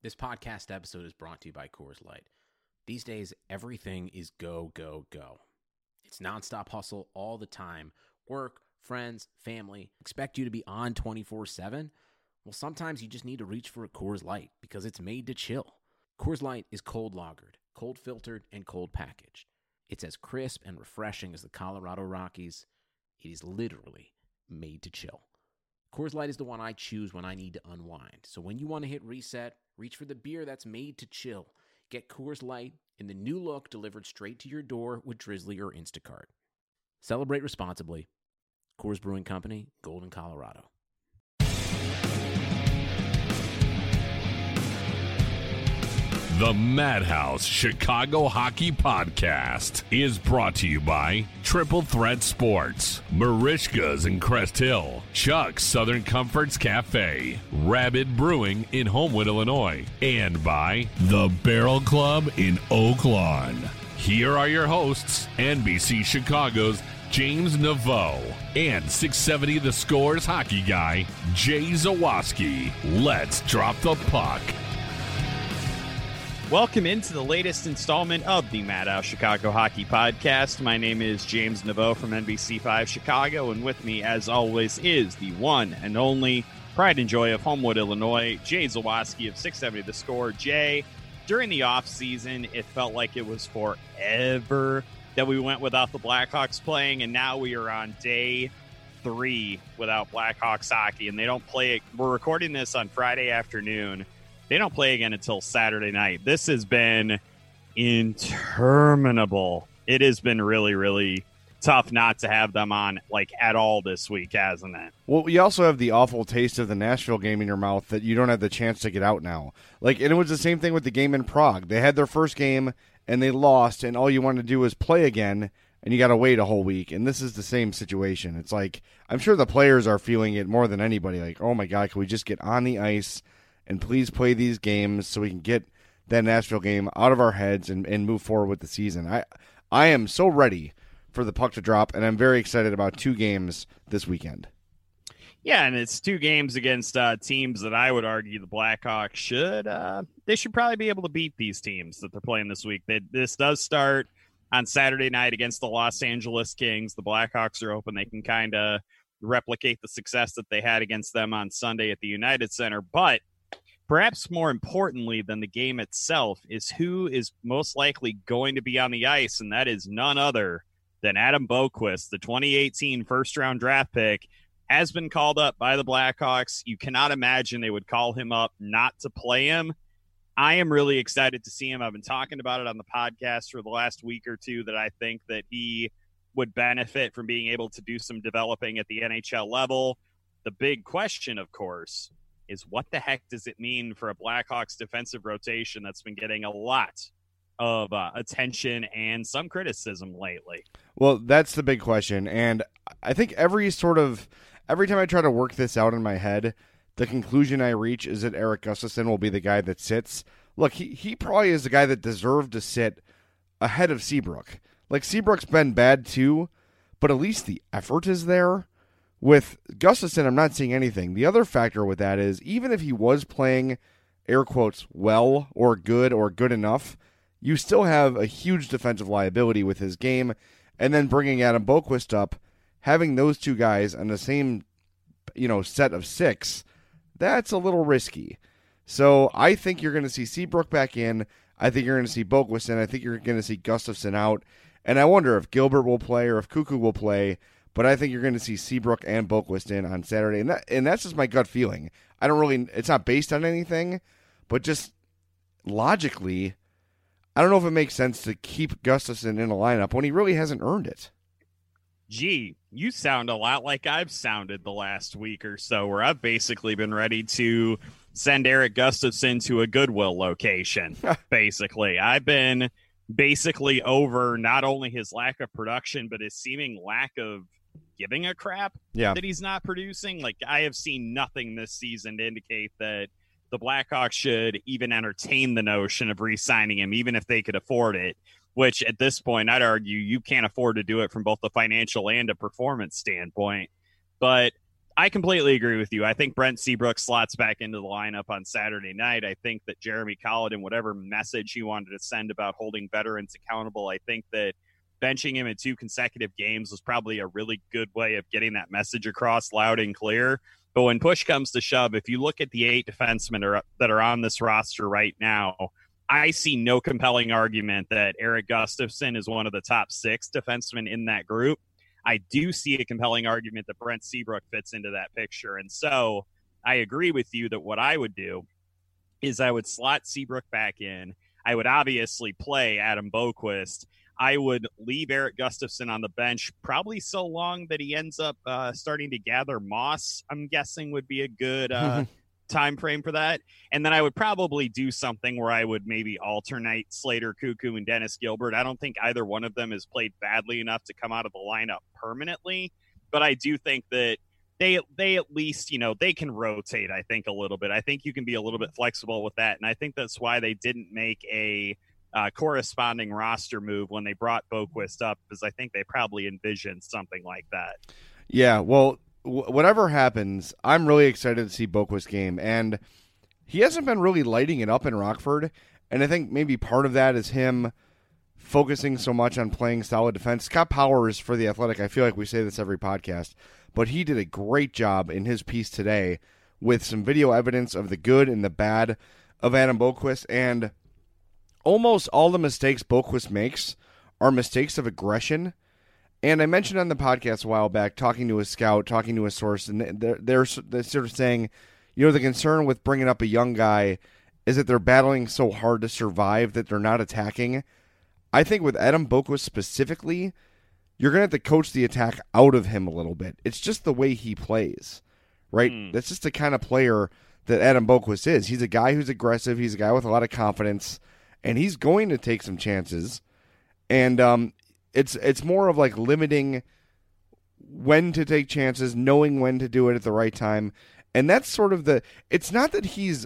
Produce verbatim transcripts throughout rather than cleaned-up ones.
This podcast episode is brought to you by Coors Light. These days, everything is go, go, go. It's nonstop hustle all the time. Work, friends, family, expect you to be on twenty-four seven. Well, sometimes you just need to reach for a Coors Light because it's made to chill. Coors Light is cold lagered, cold filtered, and cold packaged. It's as crisp and refreshing as the Colorado Rockies. It is literally made to chill. Coors Light is the one I choose when I need to unwind. So when you want to hit reset, reach for the beer that's made to chill. Get Coors Light in the new look delivered straight to your door with Drizzly or Instacart. Celebrate responsibly. Coors Brewing Company, Golden, Colorado. The Madhouse Chicago Hockey Podcast is brought to you by Triple Threat Sports, Marishka's in Crest Hill, Chuck's Southern Comforts Cafe, Rabid Brewing in Homewood, Illinois, and by The Barrel Club in Oak Lawn. Here are your hosts, N B C Chicago's James Naveau and six seventy The Score's hockey guy, Jay Zawaski. Let's drop the puck. Welcome into the latest installment of the Madhouse Chicago Hockey Podcast. My name is James Naveau from N B C five Chicago, and with me, as always, is the one and only pride and joy of Homewood, Illinois, Jay Zawaski of six seventy The Score. Jay, during the offseason, it felt like it was forever that we went without the Blackhawks playing, and now we are on day three without Blackhawks hockey, and they don't play it. We're recording this on Friday afternoon. They don't play again until Saturday night. This has been interminable. It has been really, really tough not to have them on like at all this week, hasn't it? Well, you also have the awful taste of the Nashville game in your mouth that you don't have the chance to get out now. Like, and it was the same thing with the game in Prague. They had their first game and they lost, and all you want to do is play again, and you got to wait a whole week. And this is the same situation. It's like, I'm sure the players are feeling it more than anybody. Like, oh my God, can we just get on the ice and please play these games so we can get that Nashville game out of our heads and, and move forward with the season. I I am so ready for the puck to drop, and I'm very excited about two games this weekend. Yeah, and it's two games against uh, teams that I would argue the Blackhawks should. Uh, they should probably be able to beat these teams that they're playing this week. They, this does start on Saturday night against the Los Angeles Kings. The Blackhawks are hoping they can kind of replicate the success that they had against them on Sunday at the United Center, but perhaps more importantly than the game itself is who is most likely going to be on the ice, and that is none other than Adam Boqvist, the twenty eighteen first-round draft pick, has been called up by the Blackhawks. You cannot imagine they would call him up not to play him. I am really excited to see him. I've been talking about it on the podcast for the last week or two that I think that he would benefit from being able to do some developing at the N H L level. The big question, of course, is what the heck does it mean for a Blackhawks defensive rotation that's been getting a lot of uh, attention and some criticism lately? Well, that's the big question, and I think every sort of every time I try to work this out in my head, the conclusion I reach is that Erik Gustafsson will be the guy that sits. Look, he, he probably is the guy that deserved to sit ahead of Seabrook. Like, Seabrook's been bad too, but at least the effort is there. With Gustafsson, I'm not seeing anything. The other factor with that is, even if he was playing, air quotes, well or good or good enough, you still have a huge defensive liability with his game. And then bringing Adam Boqvist up, having those two guys on the same, you know, set of six, that's a little risky. So I think you're going to see Seabrook back in. I think you're going to see Boqvist in. I think you're going to see Gustafsson out. And I wonder if Gilbert will play or if Cuckoo will play. But I think you're going to see Seabrook and Boqvist in on Saturday. And that and that's just my gut feeling. I don't really, it's not based on anything, but just logically, I don't know if it makes sense to keep Gustafsson in a lineup when he really hasn't earned it. Gee, you sound a lot like I've sounded the last week or so, where I've basically been ready to send Erik Gustafsson to a Goodwill location, basically. I've been basically over not only his lack of production, but his seeming lack of giving a crap yeah. that he's not producing. Like, I have seen nothing this season to indicate that the Blackhawks should even entertain the notion of re-signing him, even if they could afford it, which at this point, I'd argue you can't afford to do it from both a financial and a performance standpoint. But I completely agree with you. I think Brent Seabrook slots back into the lineup on Saturday night. I think that Jeremy Colliton, whatever message he wanted to send about holding veterans accountable, I think that benching him in two consecutive games was probably a really good way of getting that message across loud and clear. But when push comes to shove, if you look at the eight defensemen are, that are on this roster right now, I see no compelling argument that Erik Gustafsson is one of the top six defensemen in that group. I do see a compelling argument that Brent Seabrook fits into that picture. And so I agree with you that what I would do is I would slot Seabrook back in. I would obviously play Adam Boqvist. I would leave Erik Gustafsson on the bench probably so long that he ends up uh, starting to gather moss, I'm guessing would be a good uh, time frame for that. And then I would probably do something where I would maybe alternate Slater Cuckoo and Dennis Gilbert. I don't think either one of them has played badly enough to come out of the lineup permanently, but I do think that they they at least, you know, they can rotate, I think, a little bit. I think you can be a little bit flexible with that. And I think that's why they didn't make a uh, corresponding roster move when they brought Boqvist up, because I think they probably envisioned something like that. Yeah, well, w- whatever happens, I'm really excited to see Boqvist's game. And he hasn't been really lighting it up in Rockford. And I think maybe part of that is him focusing so much on playing solid defense. Scott Powers for The Athletic, I feel like we say this every podcast, but he did a great job in his piece today with some video evidence of the good and the bad of Adam Boqvist. And almost all the mistakes Boqvist makes are mistakes of aggression. And I mentioned on the podcast a while back, talking to a scout, talking to a source, and they're, they're, they're sort of saying, you know, the concern with bringing up a young guy is that they're battling so hard to survive that they're not attacking. I think with Adam Boqvist specifically, you're going to have to coach the attack out of him a little bit. It's just the way he plays, right? Mm. That's just the kind of player that Adam Boqvist is. He's a guy who's aggressive. He's a guy with a lot of confidence, and he's going to take some chances. And um, it's it's more of like limiting when to take chances, knowing when to do it at the right time. And that's sort of the – it's not that he's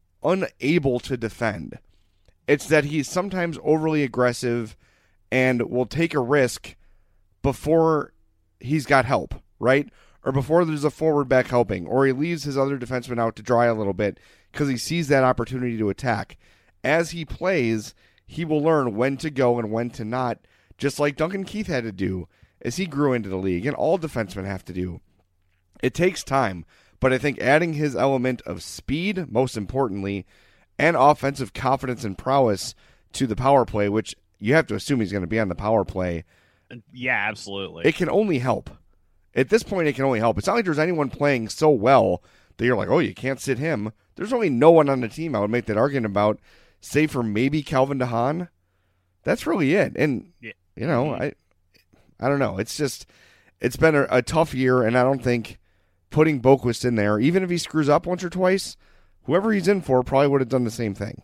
unable to defend. It's that he's sometimes overly aggressive and will take a risk before he's got help, right? Or before there's a forward back helping, or he leaves his other defenseman out to dry a little bit because he sees that opportunity to attack. As he plays, he will learn when to go and when to not, just like Duncan Keith had to do as he grew into the league, and all defensemen have to do. It takes time, but I think adding his element of speed, most importantly, and offensive confidence and prowess to the power play, which you have to assume he's going to be on the power play. Yeah, absolutely. It can only help. At this point, it can only help. It's not like there's anyone playing so well that you're like, oh, you can't sit him. There's only no one on the team I would make that argument about, save for maybe Calvin DeHaan. That's really it. And, yeah. you know, mm-hmm. I I don't know. It's just, it's been a, a tough year, and I don't think putting Boqvist in there, even if he screws up once or twice, whoever he's in for probably would have done the same thing.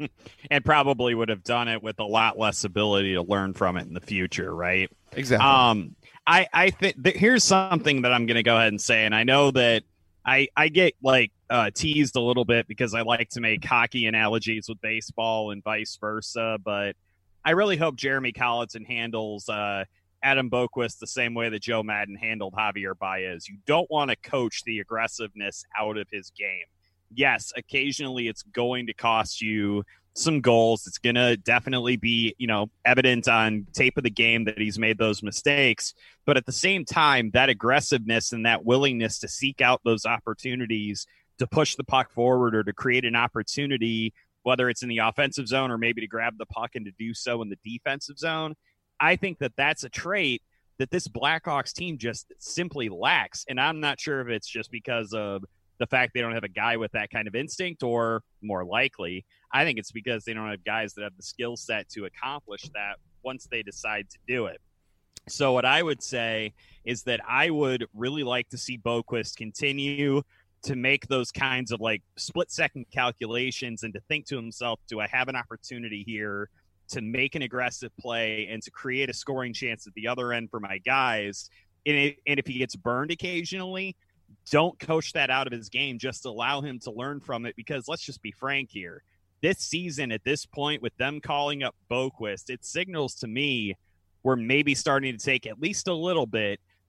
And probably would have done it with a lot less ability to learn from it in the future, right? Exactly. Um, I, I think th- here's something that I'm going to go ahead and say, and I know that I, I get like uh, teased a little bit because I like to make hockey analogies with baseball and vice versa, but I really hope Jeremy Colliton handles uh, Adam Boqvist the same way that Joe Madden handled Javier Baez. You don't want to coach the aggressiveness out of his game. Yes, occasionally it's going to cost you some goals. It's going to definitely be, you know, evident on tape of the game that he's made those mistakes. But at the same time, that aggressiveness and that willingness to seek out those opportunities to push the puck forward or to create an opportunity, whether it's in the offensive zone or maybe to grab the puck and to do so in the defensive zone, I think that that's a trait that this Blackhawks team just simply lacks. And I'm not sure if it's just because of the fact they don't have a guy with that kind of instinct, or more likely, I think it's because they don't have guys that have the skill set to accomplish that once they decide to do it. So what I would say is that I would really like to see Boqvist continue to make those kinds of like split second calculations and to think to himself, do I have an opportunity here to make an aggressive play and to create a scoring chance at the other end for my guys? And, it, and if he gets burned occasionally, don't coach that out of his game. Just allow him to learn from it, because let's just be frank here. This season, at this point, with them calling up Boqvist, it signals to me we're maybe starting to take at least a little bit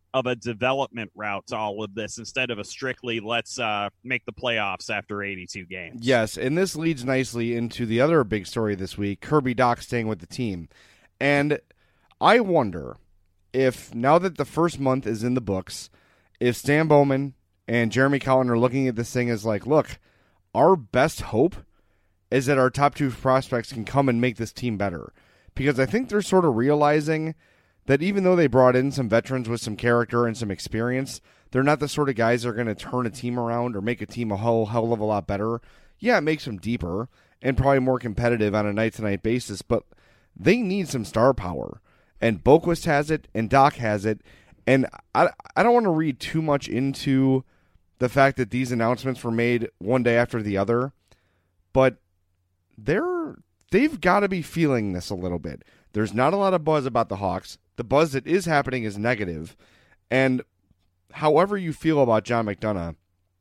of a development route to all of this instead of a strictly let's uh, make the playoffs after eighty-two games. Yes, and this leads nicely into the other big story this week, Kirby Dach staying with the team. And I wonder if, now that the first month is in the books, if Stan Bowman and Jeremy Colliton are looking at this thing as like, look, our best hope is that our top two prospects can come and make this team better. Because I think they're sort of realizing that even though they brought in some veterans with some character and some experience, they're not the sort of guys that are going to turn a team around or make a team a whole hell of a lot better. Yeah, it makes them deeper and probably more competitive on a night-to-night basis, but they need some star power. And Boqvist has it, and Dach has it. And I, I don't want to read too much into the fact that these announcements were made one day after the other, but they're, they've got to be feeling this a little bit. There's not a lot of buzz about the Hawks. The buzz that is happening is negative. And however you feel about John McDonough,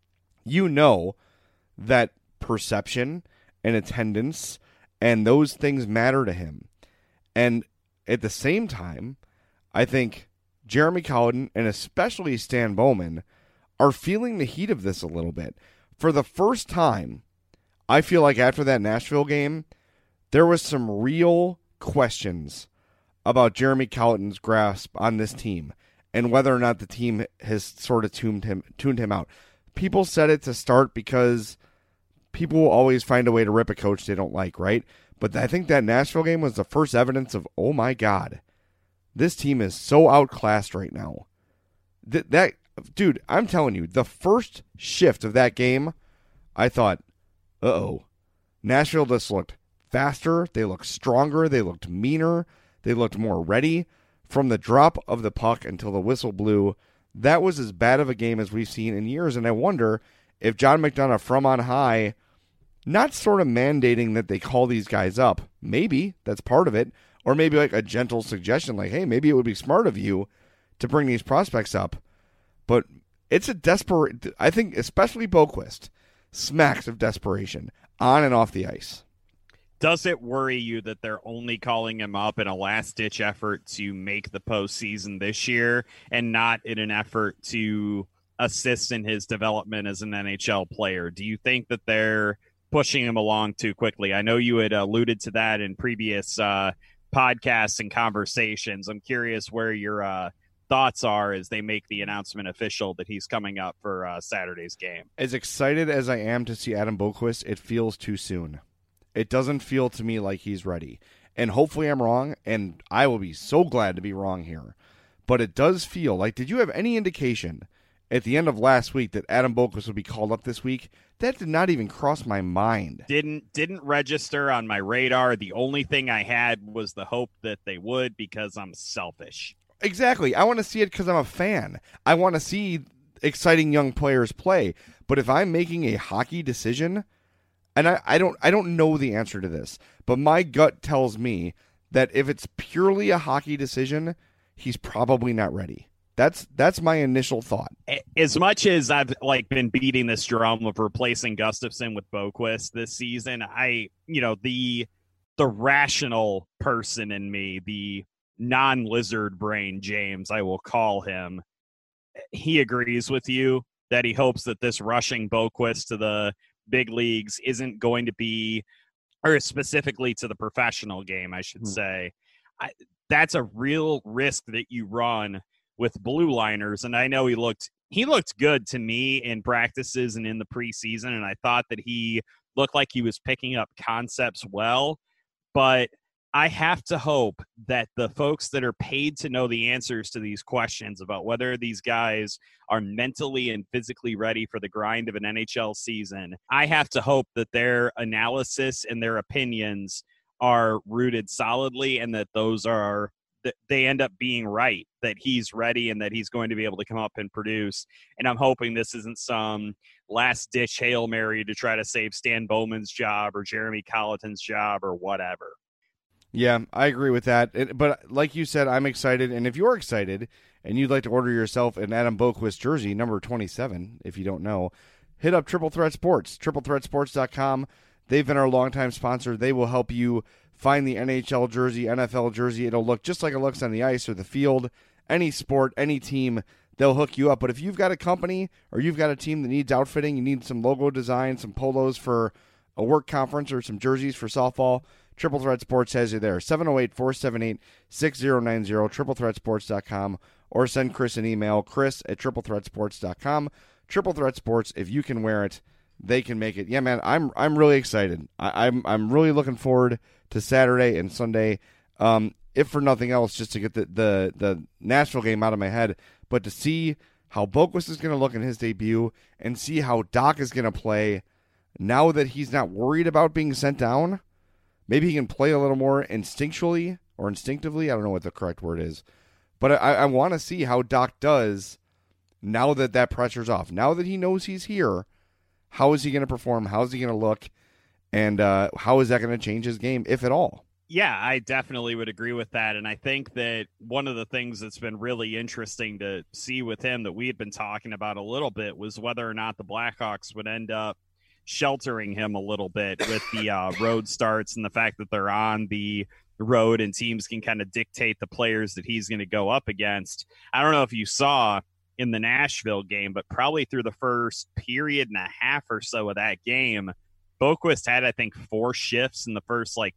you know that perception and attendance and those things matter to him. And at the same time, I think Jeremy Colliton and especially Stan Bowman are feeling the heat of this a little bit. For the first time, I feel like after that Nashville game, there was some real questions about Jeremy Colliton's grasp on this team and whether or not the team has sort of tuned him tuned him out. People said it to start because people will always find a way to rip a coach they don't like, right? But I think that Nashville game was the first evidence of, oh my God, this team is so outclassed right now. That, that dude, I'm telling you, the first shift of that game, I thought, uh-oh, Nashville just looked faster, they looked stronger, they looked meaner, they looked more ready. From the drop of the puck until the whistle blew, that was as bad of a game as we've seen in years, and I wonder if John McDonough from on high, not sort of mandating that they call these guys up, maybe that's part of it, or maybe like a gentle suggestion like, hey, maybe it would be smart of you to bring these prospects up, but it's a desperate, I think especially Boqvist, smacks of desperation on and off the ice. Does it worry you that they're only calling him up in a last-ditch effort to make the postseason this year and not in an effort to assist in his development as an N H L player? Do you think that they're pushing him along too quickly? I know you had alluded to that in previous uh, podcasts and conversations. I'm curious where your uh, thoughts are as they make the announcement official that he's coming up for uh, Saturday's game. As excited as I am to see Adam Boqvist, it feels too soon. It doesn't feel to me like he's ready. And hopefully I'm wrong, and I will be so glad to be wrong here. But it does feel like, did you have any indication at the end of last week that Adam Boqvist would be called up this week? That did not even cross my mind. Didn't didn't register on my radar. The only thing I had was the hope that they would because I'm selfish. Exactly. I want to see it because I'm a fan. I want to see exciting young players play. But if I'm making a hockey decision, and I, I don't I don't know the answer to this, but my gut tells me that if it's purely a hockey decision, he's probably not ready. That's that's my initial thought. As much as I've like been beating this drum of replacing Gustafsson with Boqvist this season, I you know the the rational person in me, the non-lizard brain James, I will call him, he agrees with you that he hopes that this rushing Boqvist to the big leagues isn't going to be, or specifically to the professional game, I should mm. say. I, that's a real risk that you run with blue liners. And I know he looked, he looked good to me in practices and in the preseason. And I thought that he looked like he was picking up concepts well, but I have to hope that the folks that are paid to know the answers to these questions about whether these guys are mentally and physically ready for the grind of an N H L season, I have to hope that their analysis and their opinions are rooted solidly and that those are, that they end up being right, that he's ready and that he's going to be able to come up and produce. And I'm hoping this isn't some last-ditch Hail Mary to try to save Stan Bowman's job or Jeremy Colliton's job or whatever. Yeah, I agree with that. It, but like you said, I'm excited. And if you're excited and you'd like to order yourself an Adam Boqvist jersey, number twenty-seven, if you don't know, hit up Triple Threat Sports, triple threat sports dot com. They've been our longtime sponsor. They will help you find the N H L jersey, N F L jersey. It'll look just like it looks on the ice or the field. Any sport, any team, they'll hook you up. But if you've got a company or you've got a team that needs outfitting, you need some logo design, some polos for a work conference or some jerseys for softball, Triple Threat Sports has you there. seven oh eight, four seven eight, six oh nine oh, triple threat sports dot com, or send Chris an email, chris at triple threat sports dot com. Triple Threat Sports, if you can wear it, they can make it. Yeah, man, I'm I'm really excited. I, I'm I'm really looking forward to Saturday and Sunday. Um, if for nothing else, just to get the, the, the Nashville game out of my head, but to see how Boquist is going to look in his debut and see how Doc is going to play now that he's not worried about being sent down. Maybe he can play a little more instinctually or instinctively. I don't know what the correct word is. But I, I want to see how Doc does now that that pressure's off. Now that he knows he's here, how is he going to perform? How is he going to look? And uh, how is that going to change his game, if at all? Yeah, I definitely would agree with that. And I think that one of the things that's been really interesting to see with him that we had been talking about a little bit was whether or not the Blackhawks would end up sheltering him a little bit with the uh, road starts and the fact that they're on the road and teams can kind of dictate the players that he's going to go up against. I don't know if you saw in the Nashville game, but probably through the first period and a half or so of that game, Boquist had, I think, four shifts in the first like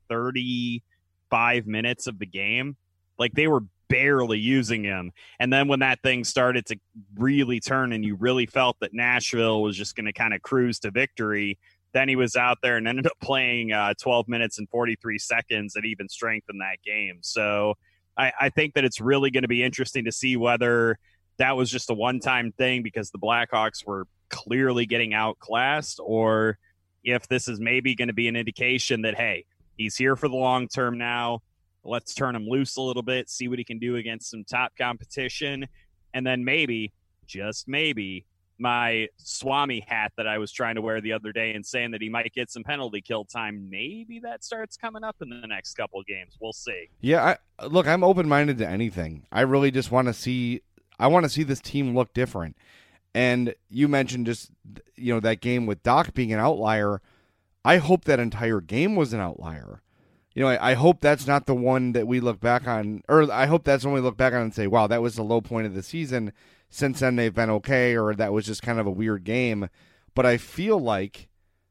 thirty-five minutes of the game. Like they were barely using him. And then when that thing started to really turn and you really felt that Nashville was just going to kind of cruise to victory, then he was out there and ended up playing uh, twelve minutes and forty-three seconds at even strength in that game. So I, I think that it's really going to be interesting to see whether that was just a one-time thing because the Blackhawks were clearly getting outclassed, or if this is maybe going to be an indication that, hey, he's here for the long term now. Let's turn him loose a little bit, see what he can do against some top competition. And then maybe, just maybe, my Swami hat that I was trying to wear the other day and saying that he might get some penalty kill time, maybe that starts coming up in the next couple of games. We'll see. Yeah, I, look, I'm open-minded to anything. I really just want to see I want to see this team look different. And you mentioned just, you know, that game with Doc being an outlier. I hope that entire game was an outlier. You know, I, I hope that's not the one that we look back on, or I hope that's when we look back on and say, wow, that was the low point of the season. Since then, they've been okay, or that was just kind of a weird game. But I feel like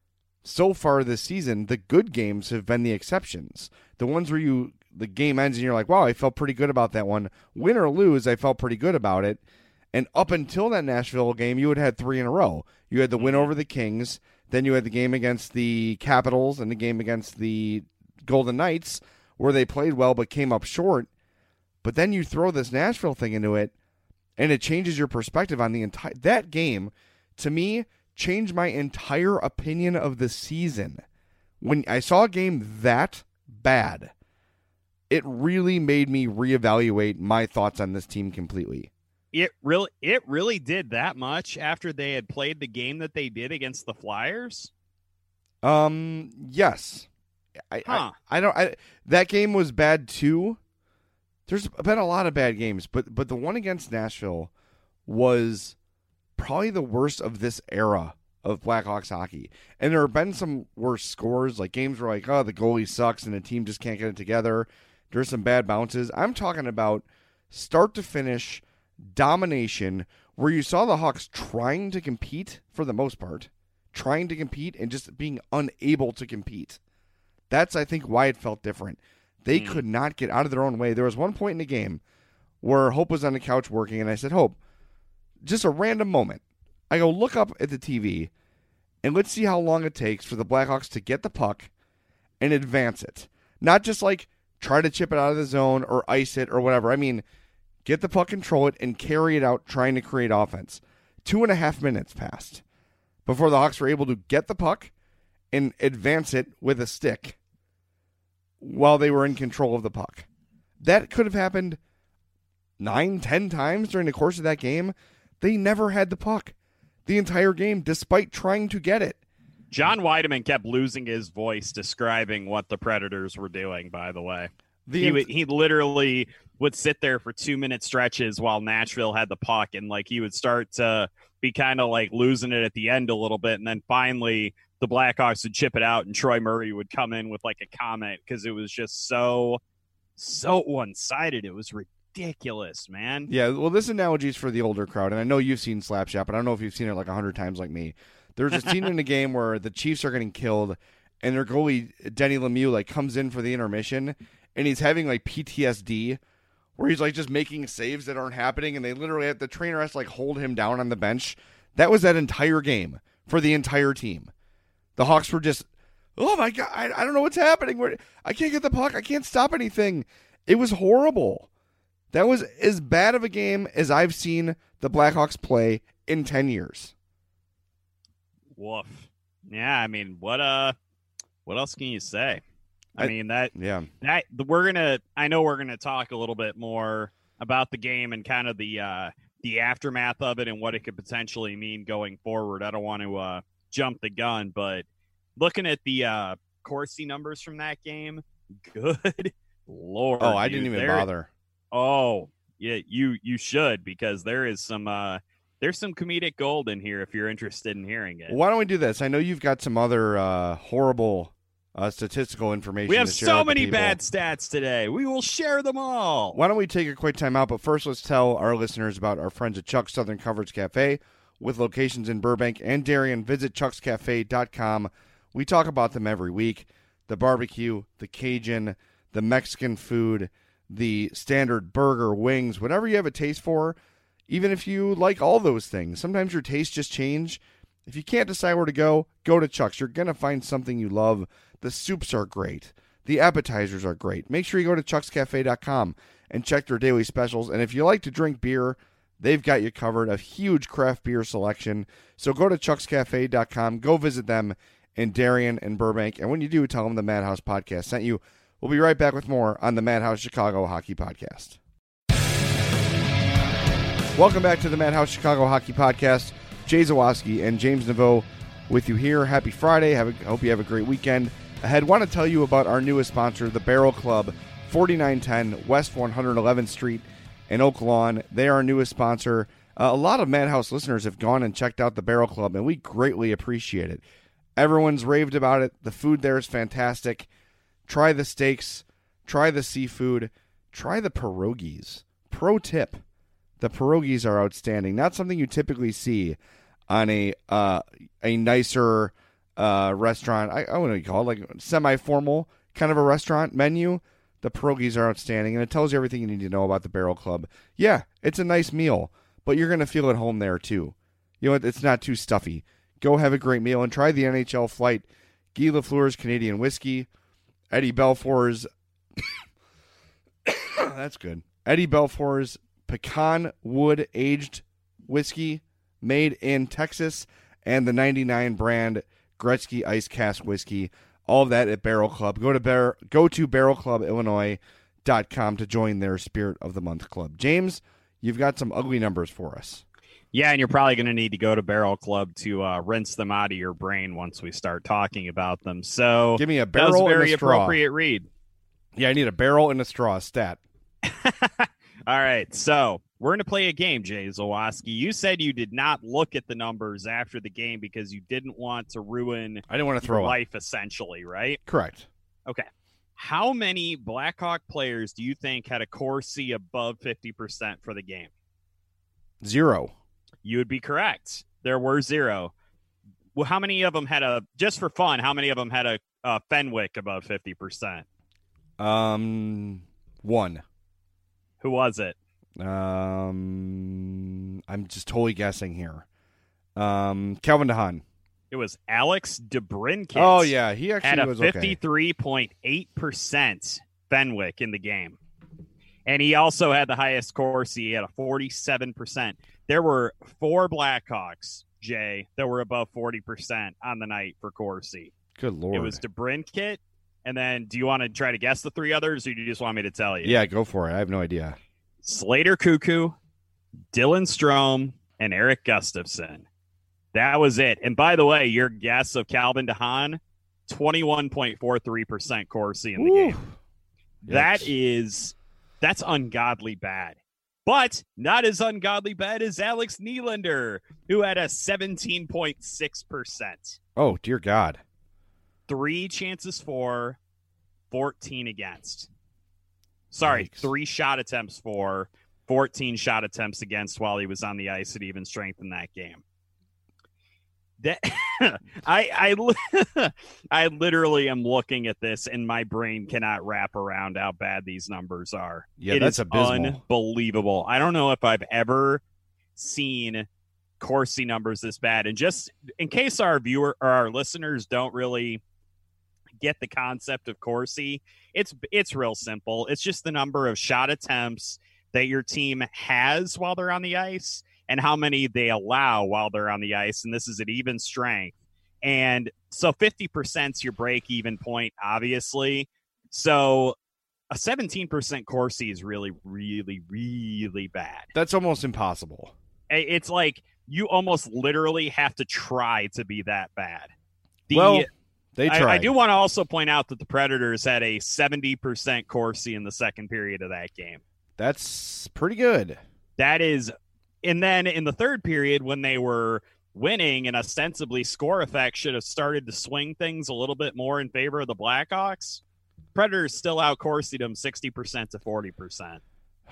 so far this season, the good games have been the exceptions. The ones where you the game ends and you're like, wow, I felt pretty good about that one. Win or lose, I felt pretty good about it. And up until that Nashville game, you had had three in a row. You had the win over the Kings, then you had the game against the Capitals and the game against the Golden Knights, where they played well but came up short. But then you throw this Nashville thing into it, and it changes your perspective on the entire... That game, to me, changed my entire opinion of the season. When I saw a game that bad, it really made me reevaluate my thoughts on this team completely. It really, it really did that much after they had played the game that they did against the Flyers? Um, yes. I, huh. I, I don't. I, that game was bad too. There's been a lot of bad games, but but the one against Nashville was probably the worst of this era of Blackhawks hockey. And there have been some worse scores, like games where like, oh, the goalie sucks and the team just can't get it together. There's some bad bounces. I'm talking about start to finish domination where you saw the Hawks trying to compete for the most part, trying to compete and just being unable to compete. That's, I think, why it felt different. They mm. could not get out of their own way. There was one point in the game where Hope was on the couch working, and I said, Hope, just a random moment. I go, look up at the T V, and let's see how long it takes for the Blackhawks to get the puck and advance it. Not just like try to chip it out of the zone or ice it or whatever. I mean, get the puck, control it, and carry it out trying to create offense. Two and a half minutes passed before the Hawks were able to get the puck and advance it with a stick while they were in control of the puck. That could have happened nine, ten times during the course of that game. They never had the puck the entire game, despite trying to get it. John Weideman kept losing his voice describing what the Predators were doing, by the way. The he, would, he literally would sit there for two-minute stretches while Nashville had the puck, and like he would start to be kind of like losing it at the end a little bit, and then finally the Blackhawks would chip it out, and Troy Murray would come in with like a comment because it was just so, so one-sided. It was ridiculous, man. Yeah, well, this analogy is for the older crowd, and I know you've seen Slapshot, but I don't know if you've seen it like a hundred times like me. There's a scene in the game where the Chiefs are getting killed, and their goalie, Denny Lemieux, like comes in for the intermission, and he's having like P T S D, where he's like just making saves that aren't happening, and they literally have, the trainer has to like hold him down on the bench. That was that entire game for the entire team. The Hawks were just, oh my God, I, I don't know what's happening. Where I can't get the puck. I can't stop anything. It was horrible. That was as bad of a game as I've seen the Blackhawks play in ten years. Woof. Yeah, I mean, what uh, what else can you say? I, I mean that yeah that we're gonna. I know we're gonna talk a little bit more about the game and kind of the uh, the aftermath of it and what it could potentially mean going forward. I don't want to uh, jump the gun, but looking at the uh, Corsi numbers from that game, good Lord. Oh, I dude, didn't even there, bother. Oh, yeah, you you should, because there is some uh, there's some comedic gold in here if you're interested in hearing it. Well, why don't we do this? I know you've got some other uh, horrible uh, statistical information. We have to share so with the many people. bad stats today. We will share them all. Why don't we take a quick time out? But first, let's tell our listeners about our friends at Chuck's Southern Comforts Cafe with locations in Burbank and Darien. Visit chucks cafe dot com. We talk about them every week. The barbecue, the Cajun, the Mexican food, the standard burger, wings, whatever you have a taste for, even if you like all those things. Sometimes your tastes just change. If you can't decide where to go, go to Chuck's. You're going to find something you love. The soups are great. The appetizers are great. Make sure you go to chucks cafe dot com and check their daily specials. And if you like to drink beer, they've got you covered. A huge craft beer selection. So go to chucks cafe dot com. Go visit them in Darien and Burbank. And when you do, tell them the Madhouse Podcast sent you. We'll be right back with more on the Madhouse Chicago Hockey Podcast. Welcome back to the Madhouse Chicago Hockey Podcast. Jay Zawaski and James Naveau with you here. Happy Friday. Have a, hope you have a great weekend ahead. Want to tell you about our newest sponsor, the Barrel Club, forty-nine ten West one hundred eleventh Street in Oak Lawn. They are our newest sponsor. Uh, a lot of Madhouse listeners have gone and checked out the Barrel Club, and we greatly appreciate it. Everyone's raved about it. The food there is fantastic. Try the steaks. Try the seafood. Try the pierogies. Pro tip. The pierogies are outstanding. Not something you typically see on a uh, a nicer uh, restaurant. I, I don't know what you call it, like semi-formal kind of a restaurant menu. The pierogies are outstanding, and it tells you everything you need to know about the Barrel Club. Yeah, it's a nice meal, but you're going to feel at home there too. You know what? It's not too stuffy. Go have a great meal and try the N H L Flight, Guy Lafleur's Canadian Whiskey, Eddie Belfour's that's good. Eddie Belfour's pecan wood aged whiskey made in Texas, and the ninety-nine brand Gretzky Ice Cask whiskey. All of that at Barrel Club. Go to Bar- go to barrel club illinois dot com to join their Spirit of the Month Club. James, you've got some ugly numbers for us. Yeah, and you're probably going to need to go to Barrel Club to uh, rinse them out of your brain once we start talking about them. So give me a that was barrel a very and a straw. appropriate read. Yeah, I need a barrel and a straw stat. All right, so we're going to play a game, Jay Zawaski. You said you did not look at the numbers after the game because you didn't want to ruin I didn't want to your throw up. life, essentially, right? Correct. Okay. How many Blackhawk players do you think had a Corsi above fifty percent for the game? Zero. You would be correct. There were zero. Well, how many of them had a, just for fun, how many of them had a, a Fenwick above fifty percent? Um, one. Who was it? Um, I'm just totally guessing here. Um, Calvin DeHaan. It was Alex DeBrincat. Oh, yeah. He actually had a was okay. fifty-three point eight percent Fenwick in the game. And he also had the highest Corsi. He had a forty-seven percent. There were four Blackhawks, Jay, that were above forty percent on the night for Corsi. Good Lord. It was DeBrincat. And then do you want to try to guess the three others, or do you just want me to tell you? Yeah, go for it. I have no idea. Slater Cuckoo, Dylan Strome, and Eric Gustafson. That was it. And by the way, your guess of Calvin DeHaan, twenty-one point four three percent Corsi in the Woo. game. Yikes. That is, that's ungodly bad. But not as ungodly bad as Alex Nylander, who had a seventeen point six percent. Oh, dear God. Three chances for, fourteen against. Sorry, Yikes. three shot attempts for, fourteen shot attempts against while he was on the ice at even strength in that game. That I I I literally am looking at this and my brain cannot wrap around how bad these numbers are. Yeah, it that's is abysmal. Unbelievable. I don't know if I've ever seen Corsi numbers this bad. And just in case our viewer or our listeners don't really get the concept of Corsi, it's it's real simple. It's just the number of shot attempts that your team has while they're on the ice and how many they allow while they're on the ice. And this is at even strength. And so fifty percent is your break-even point, obviously. So a seventeen percent Corsi is really, really, really bad. That's almost impossible. It's like you almost literally have to try to be that bad. The, well, they tried. I, I do want to also point out that the Predators had a seventy percent Corsi in the second period of that game. That's pretty good. That is, and then in the third period when they were winning and ostensibly score effect should have started to swing things a little bit more in favor of the Blackhawks, Predators still out Corsi'd them sixty percent to forty percent.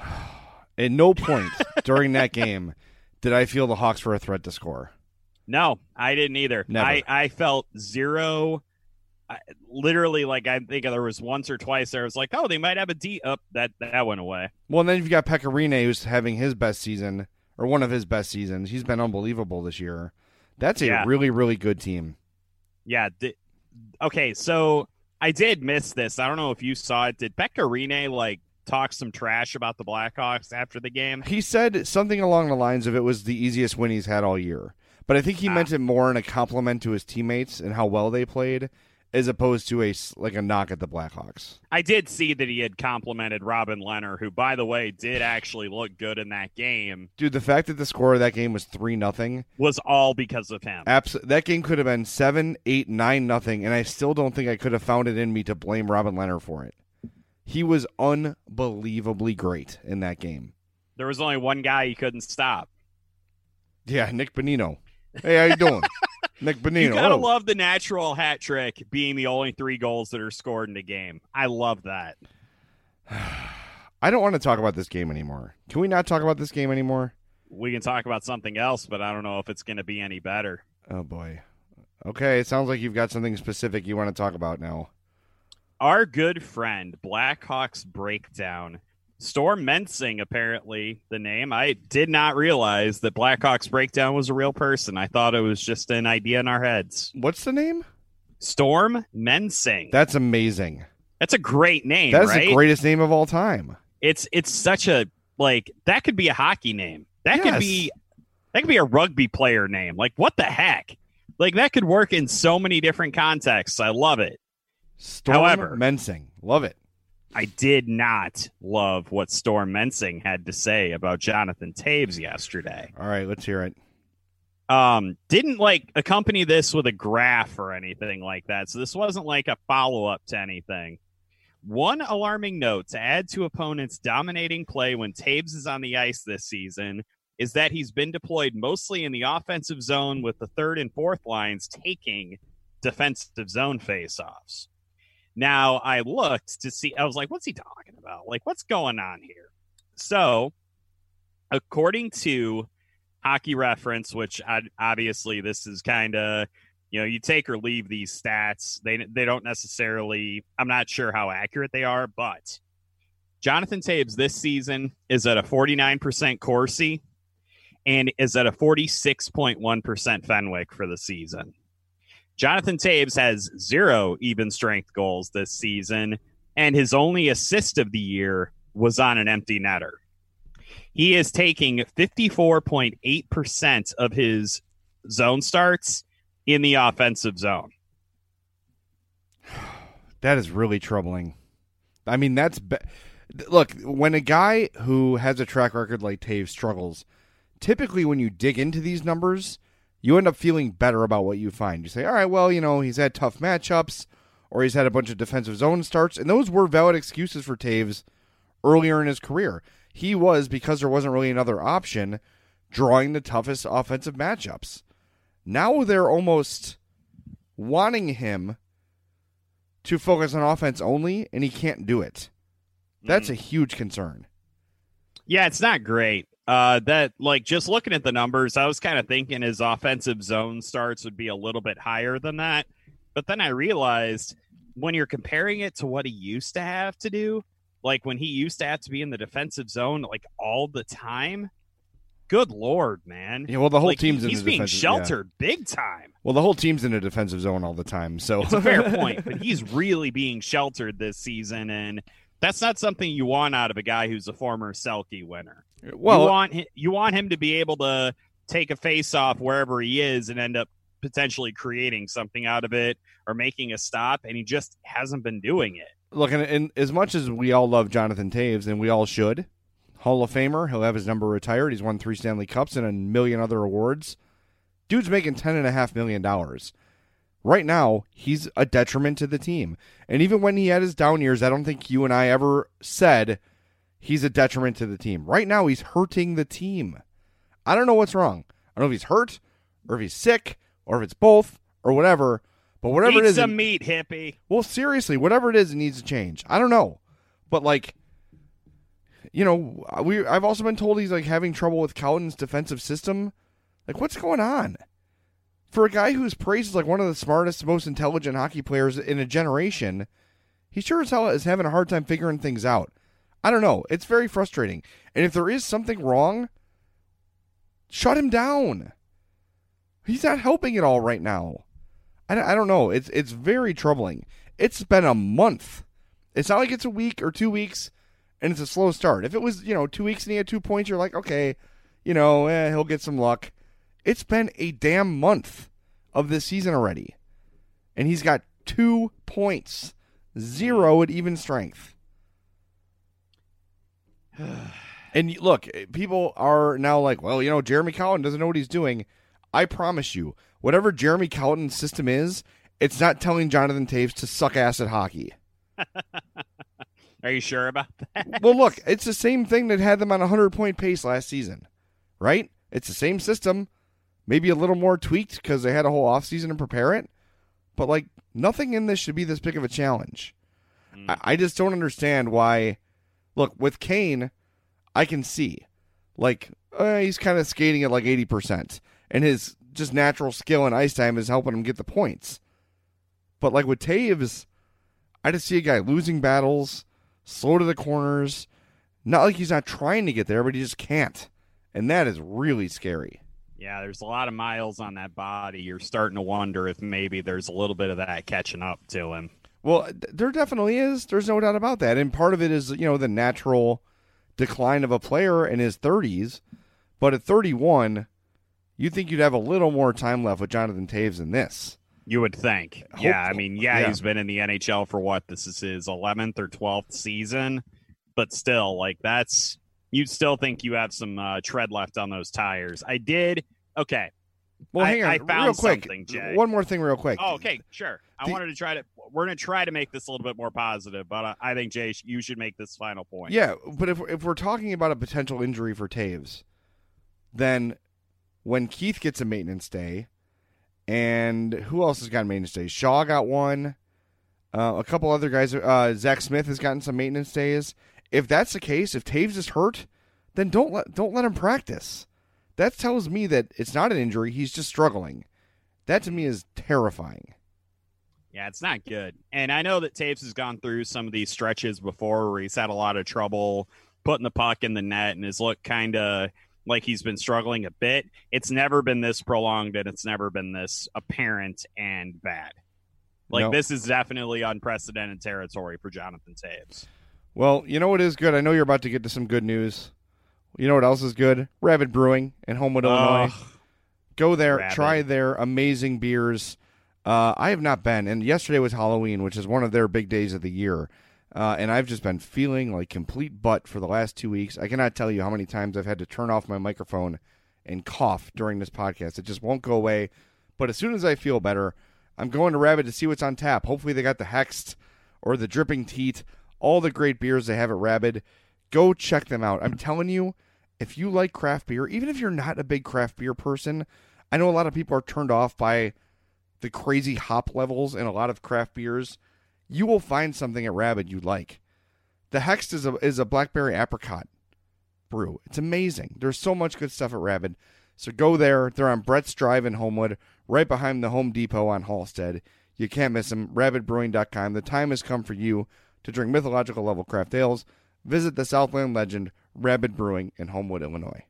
At no point during that game did I feel the Hawks were a threat to score. No, I didn't either. Never. I, I felt zero. I, literally, like I think there was once or twice there I was like, oh, they might have a D up. That that went away. Well, and then you've got Pecorine, who's having his best season, or one of his best seasons. He's been unbelievable this year. That's a Yeah. really, really good team. Yeah. Th- okay, so I did miss this. I don't know if you saw it. Did Pecorine like talk some trash about the Blackhawks after the game? He said something along the lines of it was the easiest win he's had all year. But I think he Ah. meant it more in a compliment to his teammates and how well they played, as opposed to a s- like a knock at the Blackhawks. I did see that he had complimented Robin Leonard, who, by the way, did actually look good in that game, Dude, the fact that the score of that game was three nothing, was all because of him. abs- that game could have been seven, eight, nine nothing, and I still don't think I could have found it in me to blame Robin Leonard for it. He was unbelievably great in that game. There was only one guy he couldn't stop. Yeah, Nick Bonino. Hey, how you doing? Nick Bonino. You gotta Oh. love the natural hat trick being the only three goals that are scored in a game. I love that. I don't want to talk about this game anymore. Can we not talk about this game anymore? We can talk about something else, but I don't know if it's going to be any better. Oh, boy. Okay, it sounds like you've got something specific you want to talk about now. Our good friend, Blackhawks Breakdown, Storm Mensing, apparently the name. I did not realize that Blackhawks Breakdown was a real person. I thought it was just an idea in our heads. What's the name? Storm Mensing. That's amazing. That's a great name, That's right? the greatest name of all time. It's it's such a, like, that could be a hockey name. That Yes. could be that could be a rugby player name. Like, what the heck? Like, that could work in so many different contexts. I love it. Storm However- Mensing. Love it. I did not love what Storm Mensing had to say about Jonathan Toews yesterday. All right, let's hear it. Um, didn't like accompany this with a graph or anything like that. So this wasn't like a follow-up to anything. One alarming note to add to opponents' dominating play when Toews is on the ice this season is that he's been deployed mostly in the offensive zone with the third and fourth lines taking defensive zone face-offs. Now, I looked to see, I was like, what's he talking about? Like, what's going on here? So, according to Hockey Reference, which I, obviously this is kind of, you know, you take or leave these stats. They they don't necessarily, I'm not sure how accurate they are, but Jonathan Toews this season is at a forty-nine percent Corsi and is at a forty-six point one percent Fenwick for the season. Jonathan Toews has zero even strength goals this season, and his only assist of the year was on an empty netter. He is taking fifty-four point eight percent of his zone starts in the offensive zone. That is really troubling. I mean, that's... Be- Look, when a guy who has a track record like Toews struggles, typically when you dig into these numbers, you end up feeling better about what you find. You say, all right, well, you know, he's had tough matchups, or he's had a bunch of defensive zone starts, and those were valid excuses for Toews earlier in his career. He was, because there wasn't really another option, drawing the toughest offensive matchups. Now they're almost wanting him to focus on offense only, and he can't do it. That's Mm. a huge concern. Yeah, it's not great. Uh, that like just looking at the numbers, I was kind of thinking his offensive zone starts would be a little bit higher than that. But then I realized when you're comparing it to what he used to have to do, like when he used to have to be in the defensive zone like all the time, good Lord, man. Yeah, well, the whole Like, team's he- in he's the being defensive- sheltered big time. Well, the whole team's in a defensive zone all the time, so It's a fair point, but he's really being sheltered this season, and that's not something you want out of a guy who's a former Selke winner. Well, you want hi- you want him to be able to take a face off wherever he is and end up potentially creating something out of it or making a stop, and he just hasn't been doing it. look, and, and as much as we all love Jonathan Taves, and we all should, Hall of Famer, he'll have his number retired. He's won three Stanley Cups and a million other awards. Dude's making ten and a half million dollars. Right now, he's a detriment to the team. And even when he had his down years, I don't think you and I ever said he's a detriment to the team. Right now, he's hurting the team. I don't know what's wrong. I don't know if he's hurt, or if he's sick, or if it's both, or whatever. But whatever Eat it is, some it- meat, hippie. well, seriously, whatever it is, it needs to change. I don't know, but like, you know, we I've also been told he's like having trouble with Cowden's defensive system. Like, what's going on? For a guy who's praised as like one of the smartest, most intelligent hockey players in a generation, he sure as hell is having a hard time figuring things out. I don't know. It's very frustrating. And if there is something wrong, shut him down. He's not helping at all right now. I don't, I don't know. It's it's very troubling. It's been a month. It's not like it's a week or two weeks and it's a slow start. If it was, you know, two weeks and he had two points, you're like, okay, you know, eh, he'll get some luck. It's been a damn month of this season already. And he's got two points. Zero at even strength. And you- look, people are now like, well, you know, Jeremy Colliton doesn't know what he's doing. I promise you, whatever Jeremy Colliton's system is, it's not telling Jonathan Taves to suck ass at hockey. Are you sure about that? Well, look, it's the same thing that had them on a hundred-point pace last season, right? It's the same system, maybe a little more tweaked because they had a whole offseason to prepare it. But, like, nothing in this should be this big of a challenge. Mm. I, I just don't understand why. Look, with Kane, I can see. Like, uh, he's kind of skating at like eighty percent. And his just natural skill and ice time is helping him get the points. But, like, with Taves, I just see a guy losing battles, slow to the corners. Not like he's not trying to get there, but he just can't. And that is really scary. Yeah, there's a lot of miles on that body. You're starting to wonder if maybe there's a little bit of that catching up to him. Well, th- there definitely is. There's no doubt about that. And part of it is, you know, the natural decline of a player in his thirties. But at thirty-one, you'd think you'd have a little more time left with Jonathan Taves than this. You would think. Yeah, I Hopeful. mean, yeah, Yeah. he's been in the N H L for what? This is his eleventh or twelfth season. But still, like, that's, you'd still think you have some uh, tread left on those tires. I did. Okay. Well, I- hang on. I found real quick. something, Jay. One more thing real quick. Oh, okay, sure. I The- wanted to try to, we're going to try to make this a little bit more positive, but uh, I think, Jay, you should make this final point. Yeah, but if, if we're talking about a potential injury for Taves, then when Keith gets a maintenance day, and who else has got maintenance days? Shaw got one. Uh, a couple other guys. Uh, Zach Smith has gotten some maintenance days. If that's the case, if Taves is hurt, then don't let don't let him practice. That tells me that it's not an injury. He's just struggling. That to me is terrifying. Yeah, it's not good. And I know that Taves has gone through some of these stretches before where he's had a lot of trouble putting the puck in the net and has looked kind of like he's been struggling a bit. It's never been this prolonged and it's never been this apparent and bad. Like, No. this is definitely unprecedented territory for Jonathan Taves. Well, you know what is good? I know you're about to get to some good news. You know what else is good? Rabid Brewing in Homewood, Illinois. Ugh. Go there, Rabid. try their amazing beers. Uh, I have not been, and yesterday was Halloween, which is one of their big days of the year. Uh, and I've just been feeling like complete butt for the last two weeks. I cannot tell you how many times I've had to turn off my microphone and cough during this podcast. It just won't go away. But as soon as I feel better, I'm going to Rabid to see what's on tap. Hopefully they got the Hexed or the Dripping Teat, all the great beers they have at Rabid. Go check them out. I'm telling you, if you like craft beer, even if you're not a big craft beer person, I know a lot of people are turned off by the crazy hop levels in a lot of craft beers. You will find something at Rabid you like. The Hext is a is a blackberry apricot brew. It's amazing. There's so much good stuff at Rabid. So go there. They're on Brett's Drive in Homewood, right behind the Home Depot on Halstead. You can't miss them. rabid brewing dot com. The time has come for you to drink mythological level craft ales. Visit the Southland legend, Rabid Brewing in Homewood, Illinois.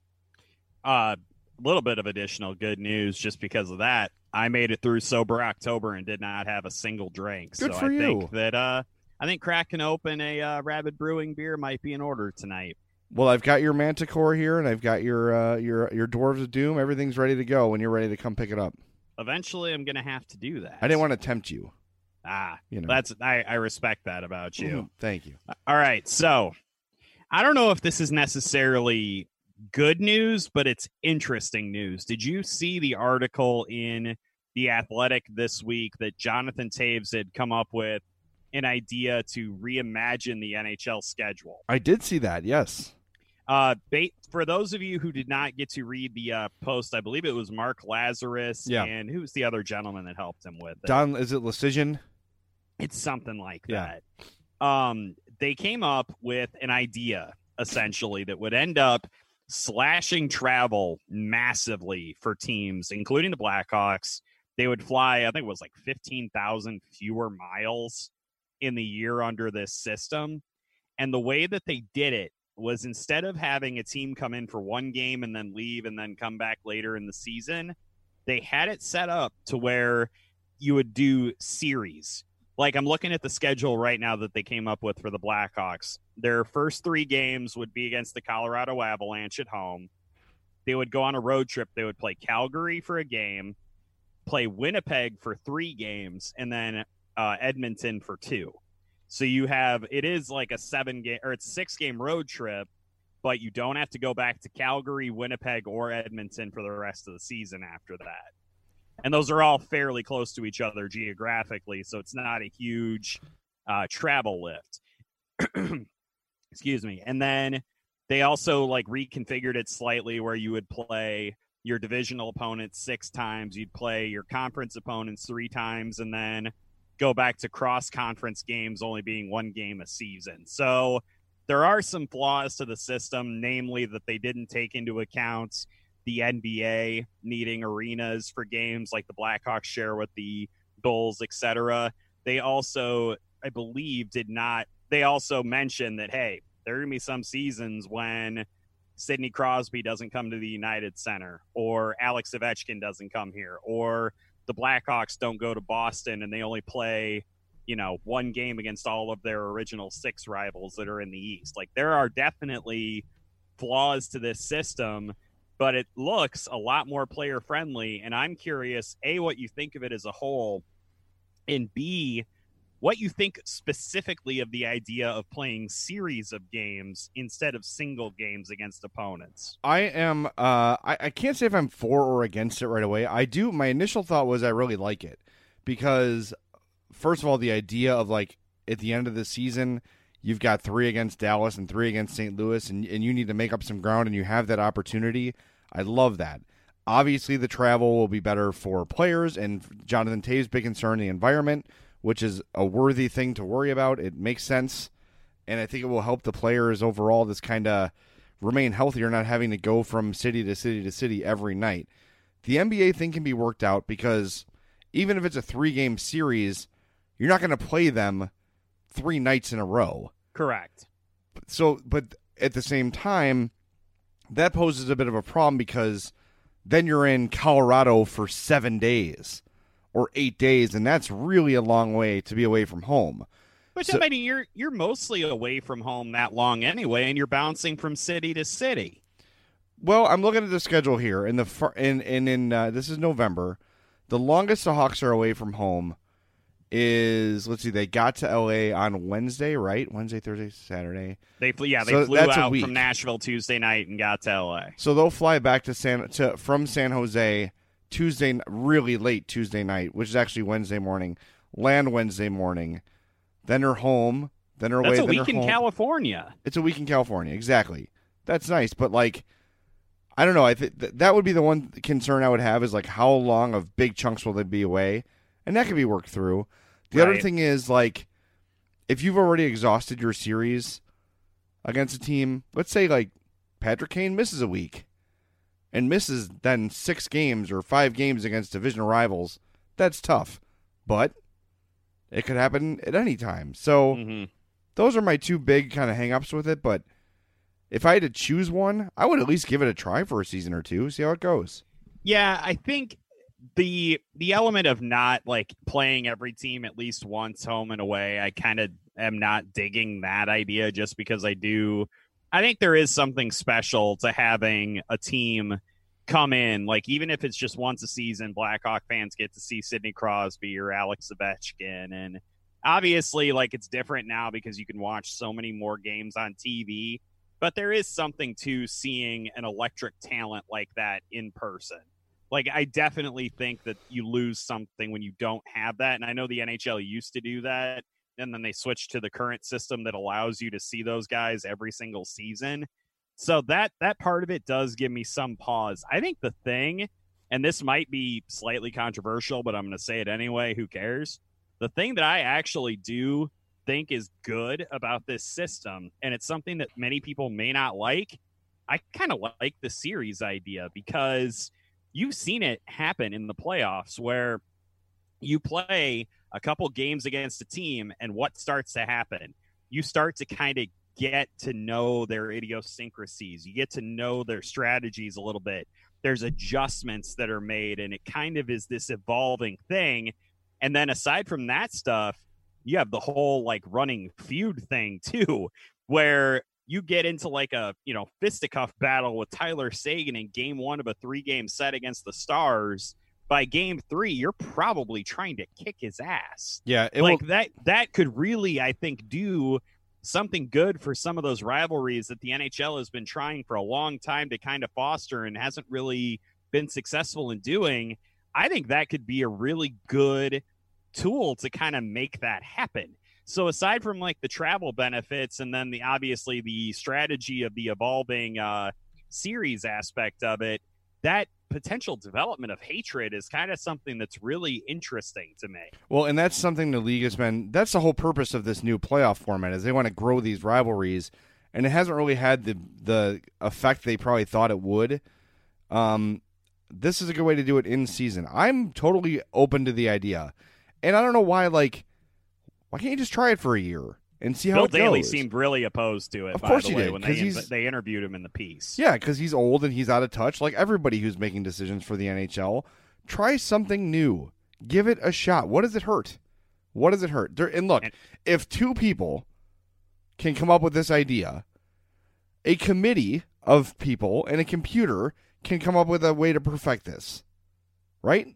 A uh, little bit of additional good news just because of that. I made it through sober October and did not have a single drink. Good so for I you. think that uh, I think cracking open a uh, Rabid Brewing beer might be in order tonight. Well, I've got your Manticore here, and I've got your uh, your your Dwarves of Doom. Everything's ready to go when you're ready to come pick it up. Eventually, I'm going to have to do that. I didn't want to tempt you. Ah, You know. that's I, I respect that about you. Mhm. Thank you. All right, so I don't know if this is necessarily good news, but it's interesting news. Did you see the article in The Athletic this week that Jonathan Taves had come up with an idea to reimagine the N H L schedule? I did see that, yes. Uh, ba- for those of you who did not get to read the uh, post, I believe it was Mark Lazarus, Yeah. and who's the other gentleman that helped him with it? Don, is it Lecision? It's something like Yeah. that. Um, they came up with an idea, essentially, that would end up slashing travel massively for teams, including the Blackhawks. They would fly, I think it was like fifteen thousand fewer miles in the year under this system. And the way that they did it was instead of having a team come in for one game and then leave and then come back later in the season, they had it set up to where you would do series. Like, I'm looking at the schedule right now that they came up with for the Blackhawks. Their first three games would be against the Colorado Avalanche at home. They would go on a road trip. They would play Calgary for a game, play Winnipeg for three games, and then uh, Edmonton for two. So you have, it is like a seven game or it's six game road trip, but you don't have to go back to Calgary, Winnipeg, or Edmonton for the rest of the season after that. And those are all fairly close to each other geographically, so it's not a huge uh, travel lift. Excuse me. And then they also like reconfigured it slightly where you would play your divisional opponents six times, you'd play your conference opponents three times, and then go back to cross-conference games only being one game a season. So there are some flaws to the system, namely that they didn't take into account the N B A needing arenas for games like the Blackhawks share with the Bulls, et cetera. They also, I believe, did not – they also mentioned that, hey, there are going to be some seasons when Sidney Crosby doesn't come to the United Center, or Alex Ovechkin doesn't come here, or – the Blackhawks don't go to Boston and they only play, you know, one game against all of their original six rivals that are in the East. Like, there are definitely flaws to this system, but it looks a lot more player friendly. And I'm curious, A, what you think of it as a whole, and B, what you think specifically of the idea of playing series of games instead of single games against opponents. I am, uh, I, I can't say if I'm for or against it right away. I do, my initial thought was I really like it because, first of all, the idea of, like, at the end of the season, you've got three against Dallas and three against Saint Louis, and, and you need to make up some ground, and you have that opportunity. I love that. Obviously, the travel will be better for players, and Jonathan Taves' big concern, the environment, which is a worthy thing to worry about. It makes sense, and I think it will help the players overall just kind of remain healthier, not having to go from city to city to city every night. The N B A thing can be worked out because even if it's a three-game series, you're not going to play them three nights in a row. Correct. So, but at the same time, that poses a bit of a problem because then you're in Colorado for seven days. Or eight days, and that's really a long way to be away from home. But So- I mean, you're you're mostly away from home that long anyway, and you're bouncing from city to city. Well, I'm looking at the schedule here. In the far, in in, in uh, this is November. The longest the Hawks are away from home is, let's see, they got to L A on Wednesday, right? Wednesday, Thursday, Saturday. They flew, yeah, they So flew that's a out week. from Nashville Tuesday night and got to L A. So they'll fly back to San to from San Jose Tuesday, really late Tuesday night, which is actually Wednesday morning. Land Wednesday morning. Then they're home. Then they're away. That's a then week they're in home. California. It's a week in California, exactly. That's nice, but like, I don't know. I think th- that would be the one concern I would have is like how long of big chunks will they be away, and that can be worked through. The other Right. thing is like, if you've already exhausted your series against a team, let's say like Patrick Kane misses a week and misses then six games or five games against divisional rivals, that's tough. But it could happen at any time. So Mm-hmm. those are my two big kind of hang-ups with it. But if I had to choose one, I would at least give it a try for a season or two, see how it goes. Yeah, I think the the element of not like playing every team at least once home and away, I kind of am not digging that idea just because I do. I think there is something special to having a team come in, like even if it's just once a season, Blackhawk fans get to see Sidney Crosby or Alex Ovechkin. And obviously, like it's different now because you can watch so many more games on T V, but there is something to seeing an electric talent like that in person. Like, I definitely think that you lose something when you don't have that. And I know the N H L used to do that, and then they switched to the current system that allows you to see those guys every single season. So that that part of it does give me some pause. I think the thing, and this might be slightly controversial, but I'm going to say it anyway, who cares? The thing that I actually do think is good about this system, and it's something that many people may not like, I kind of like the series idea because you've seen it happen in the playoffs where you play a couple games against a team, and what starts to happen? You start to kind of get to know their idiosyncrasies. You get to know their strategies a little bit. There's adjustments that are made, and it kind of is this evolving thing. And then aside from that stuff, you have the whole like running feud thing too, where you get into like a, you know, fisticuff battle with Tyler Seguin in game one of a three game set against the Stars. By game three, you're probably trying to kick his ass. Yeah, it like will... that, that could really, I think, do something good for some of those rivalries that the N H L has been trying for a long time to kind of foster and hasn't really been successful in doing. I think that could be a really good tool to kind of make that happen. So aside from like the travel benefits and then the obviously the strategy of the evolving uh, series aspect of it, that potential development of hatred is kind of something that's really interesting to me. Well, and that's something the league has been, that's the whole purpose of this new playoff format, is they want to grow these rivalries, and it hasn't really had the the effect they probably thought it would. Um, this is a good way to do it in season. I'm totally open to the idea, and I don't know why, like, why can't you just try it for a year and see how Bill it Daly goes? seemed really opposed to it, Of by course the he way, did, when 'cause they, he's- they interviewed him in the piece. Yeah, because he's old and he's out of touch, like everybody who's making decisions for the N H L. Try something new. Give it a shot. What does it hurt? What does it hurt? There, and look, And- if two people can come up with this idea, a committee of people and a computer can come up with a way to perfect this, right?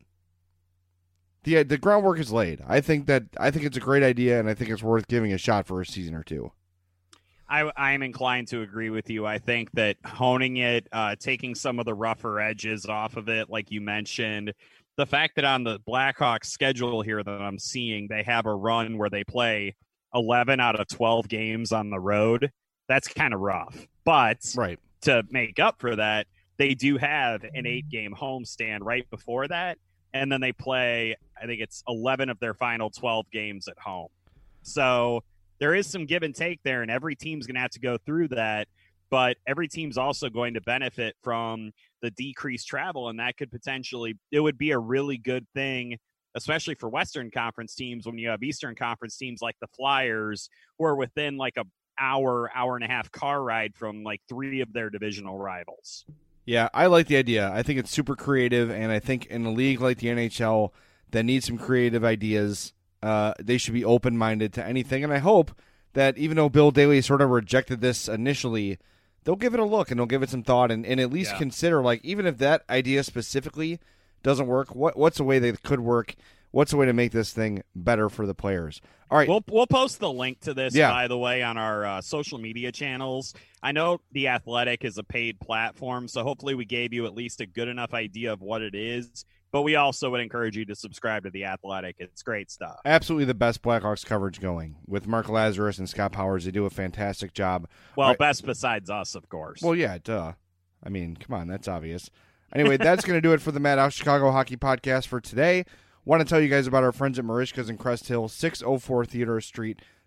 The the groundwork is laid. I think that I think it's a great idea, and I think it's worth giving a shot for a season or two. I, I'm inclined to agree with you. I think that honing it, uh, taking some of the rougher edges off of it, like you mentioned, the fact that on the Blackhawks schedule here that I'm seeing, they have a run where they play eleven out of twelve games on the road. That's kind of rough. But Right. to make up for that, they do have an eight-game homestand right before that. And then they play, I think it's eleven of their final twelve games at home. So there is some give and take there, and every team's going to have to go through that. But every team's also going to benefit from the decreased travel, and that could potentially, it would be a really good thing, especially for Western Conference teams when you have Eastern Conference teams like the Flyers, who are within like a hour, hour and a half car ride from like three of their divisional rivals. Yeah, I like the idea. I think it's super creative, and I think in a league like the N H L that needs some creative ideas, uh, they should be open-minded to anything. And I hope that even though Bill Daly sort of rejected this initially, they'll give it a look and they'll give it some thought and, and at least Yeah. consider, like, even if that idea specifically doesn't work, what what's a way that could work? What's a way to make this thing better for the players? All right. We'll we'll post the link to this, Yeah. by the way, on our uh, social media channels. I know The Athletic is a paid platform, so hopefully we gave you at least a good enough idea of what it is. But we also would encourage you to subscribe to The Athletic. It's great stuff. Absolutely the best Blackhawks coverage going. With Mark Lazarus and Scott Powers, they do a fantastic job. Well, All right. best besides us, of course. Well, yeah, duh. I mean, come on, that's obvious. Anyway, that's going to do it for the Madhouse Chicago Hockey Podcast for today. Want to tell you guys about our friends at Marishka's in Crest Hill, six oh four Theodore Street.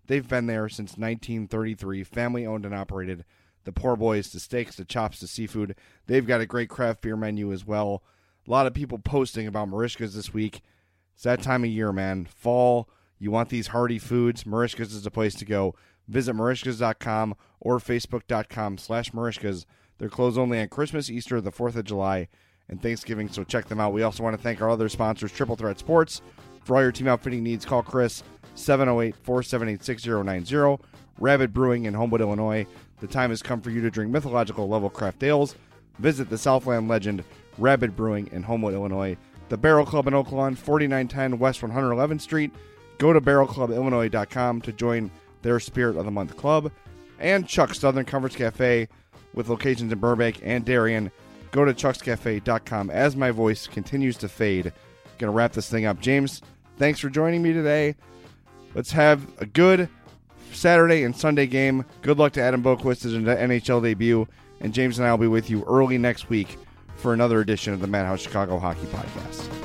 They've been there since nineteen thirty-three, family owned and operated. The Poor Boys, the steaks, the chops, the seafood. They've got a great craft beer menu as well. A lot of people posting about Merichka's this week. It's that time of year, man. Fall, you want these hearty foods. Merichka's is the place to go. Visit Merichka's dot com or Facebook.com slash Merichka's. They're closed only on Christmas, Easter, the fourth of July, and Thanksgiving, so check them out. We also want to thank our other sponsors, Triple Threat Sports. For all your team outfitting needs, call Chris, seven oh eight, four seven eight, six oh nine oh. Rabbit Brewing in Homewood, Illinois. The time has come for you to drink mythological level craft ales. Visit the Southland legend, Rabbit Brewing in Homewood, Illinois. The Barrel Club in Oakland, forty-nine ten West one hundred eleventh Street. Go to barrel club illinois dot com to join their Spirit of the Month Club. And Chuck's Southern Comforts Cafe with locations in Burbank and Darien. Go to chucks cafe dot com as my voice continues to fade. Going to wrap this thing up. James, thanks for joining me today. Let's have a good Saturday and Sunday game. Good luck to Adam Boquist in the N H L debut. And James and I will be with you early next week for another edition of the Madhouse Chicago Hockey Podcast.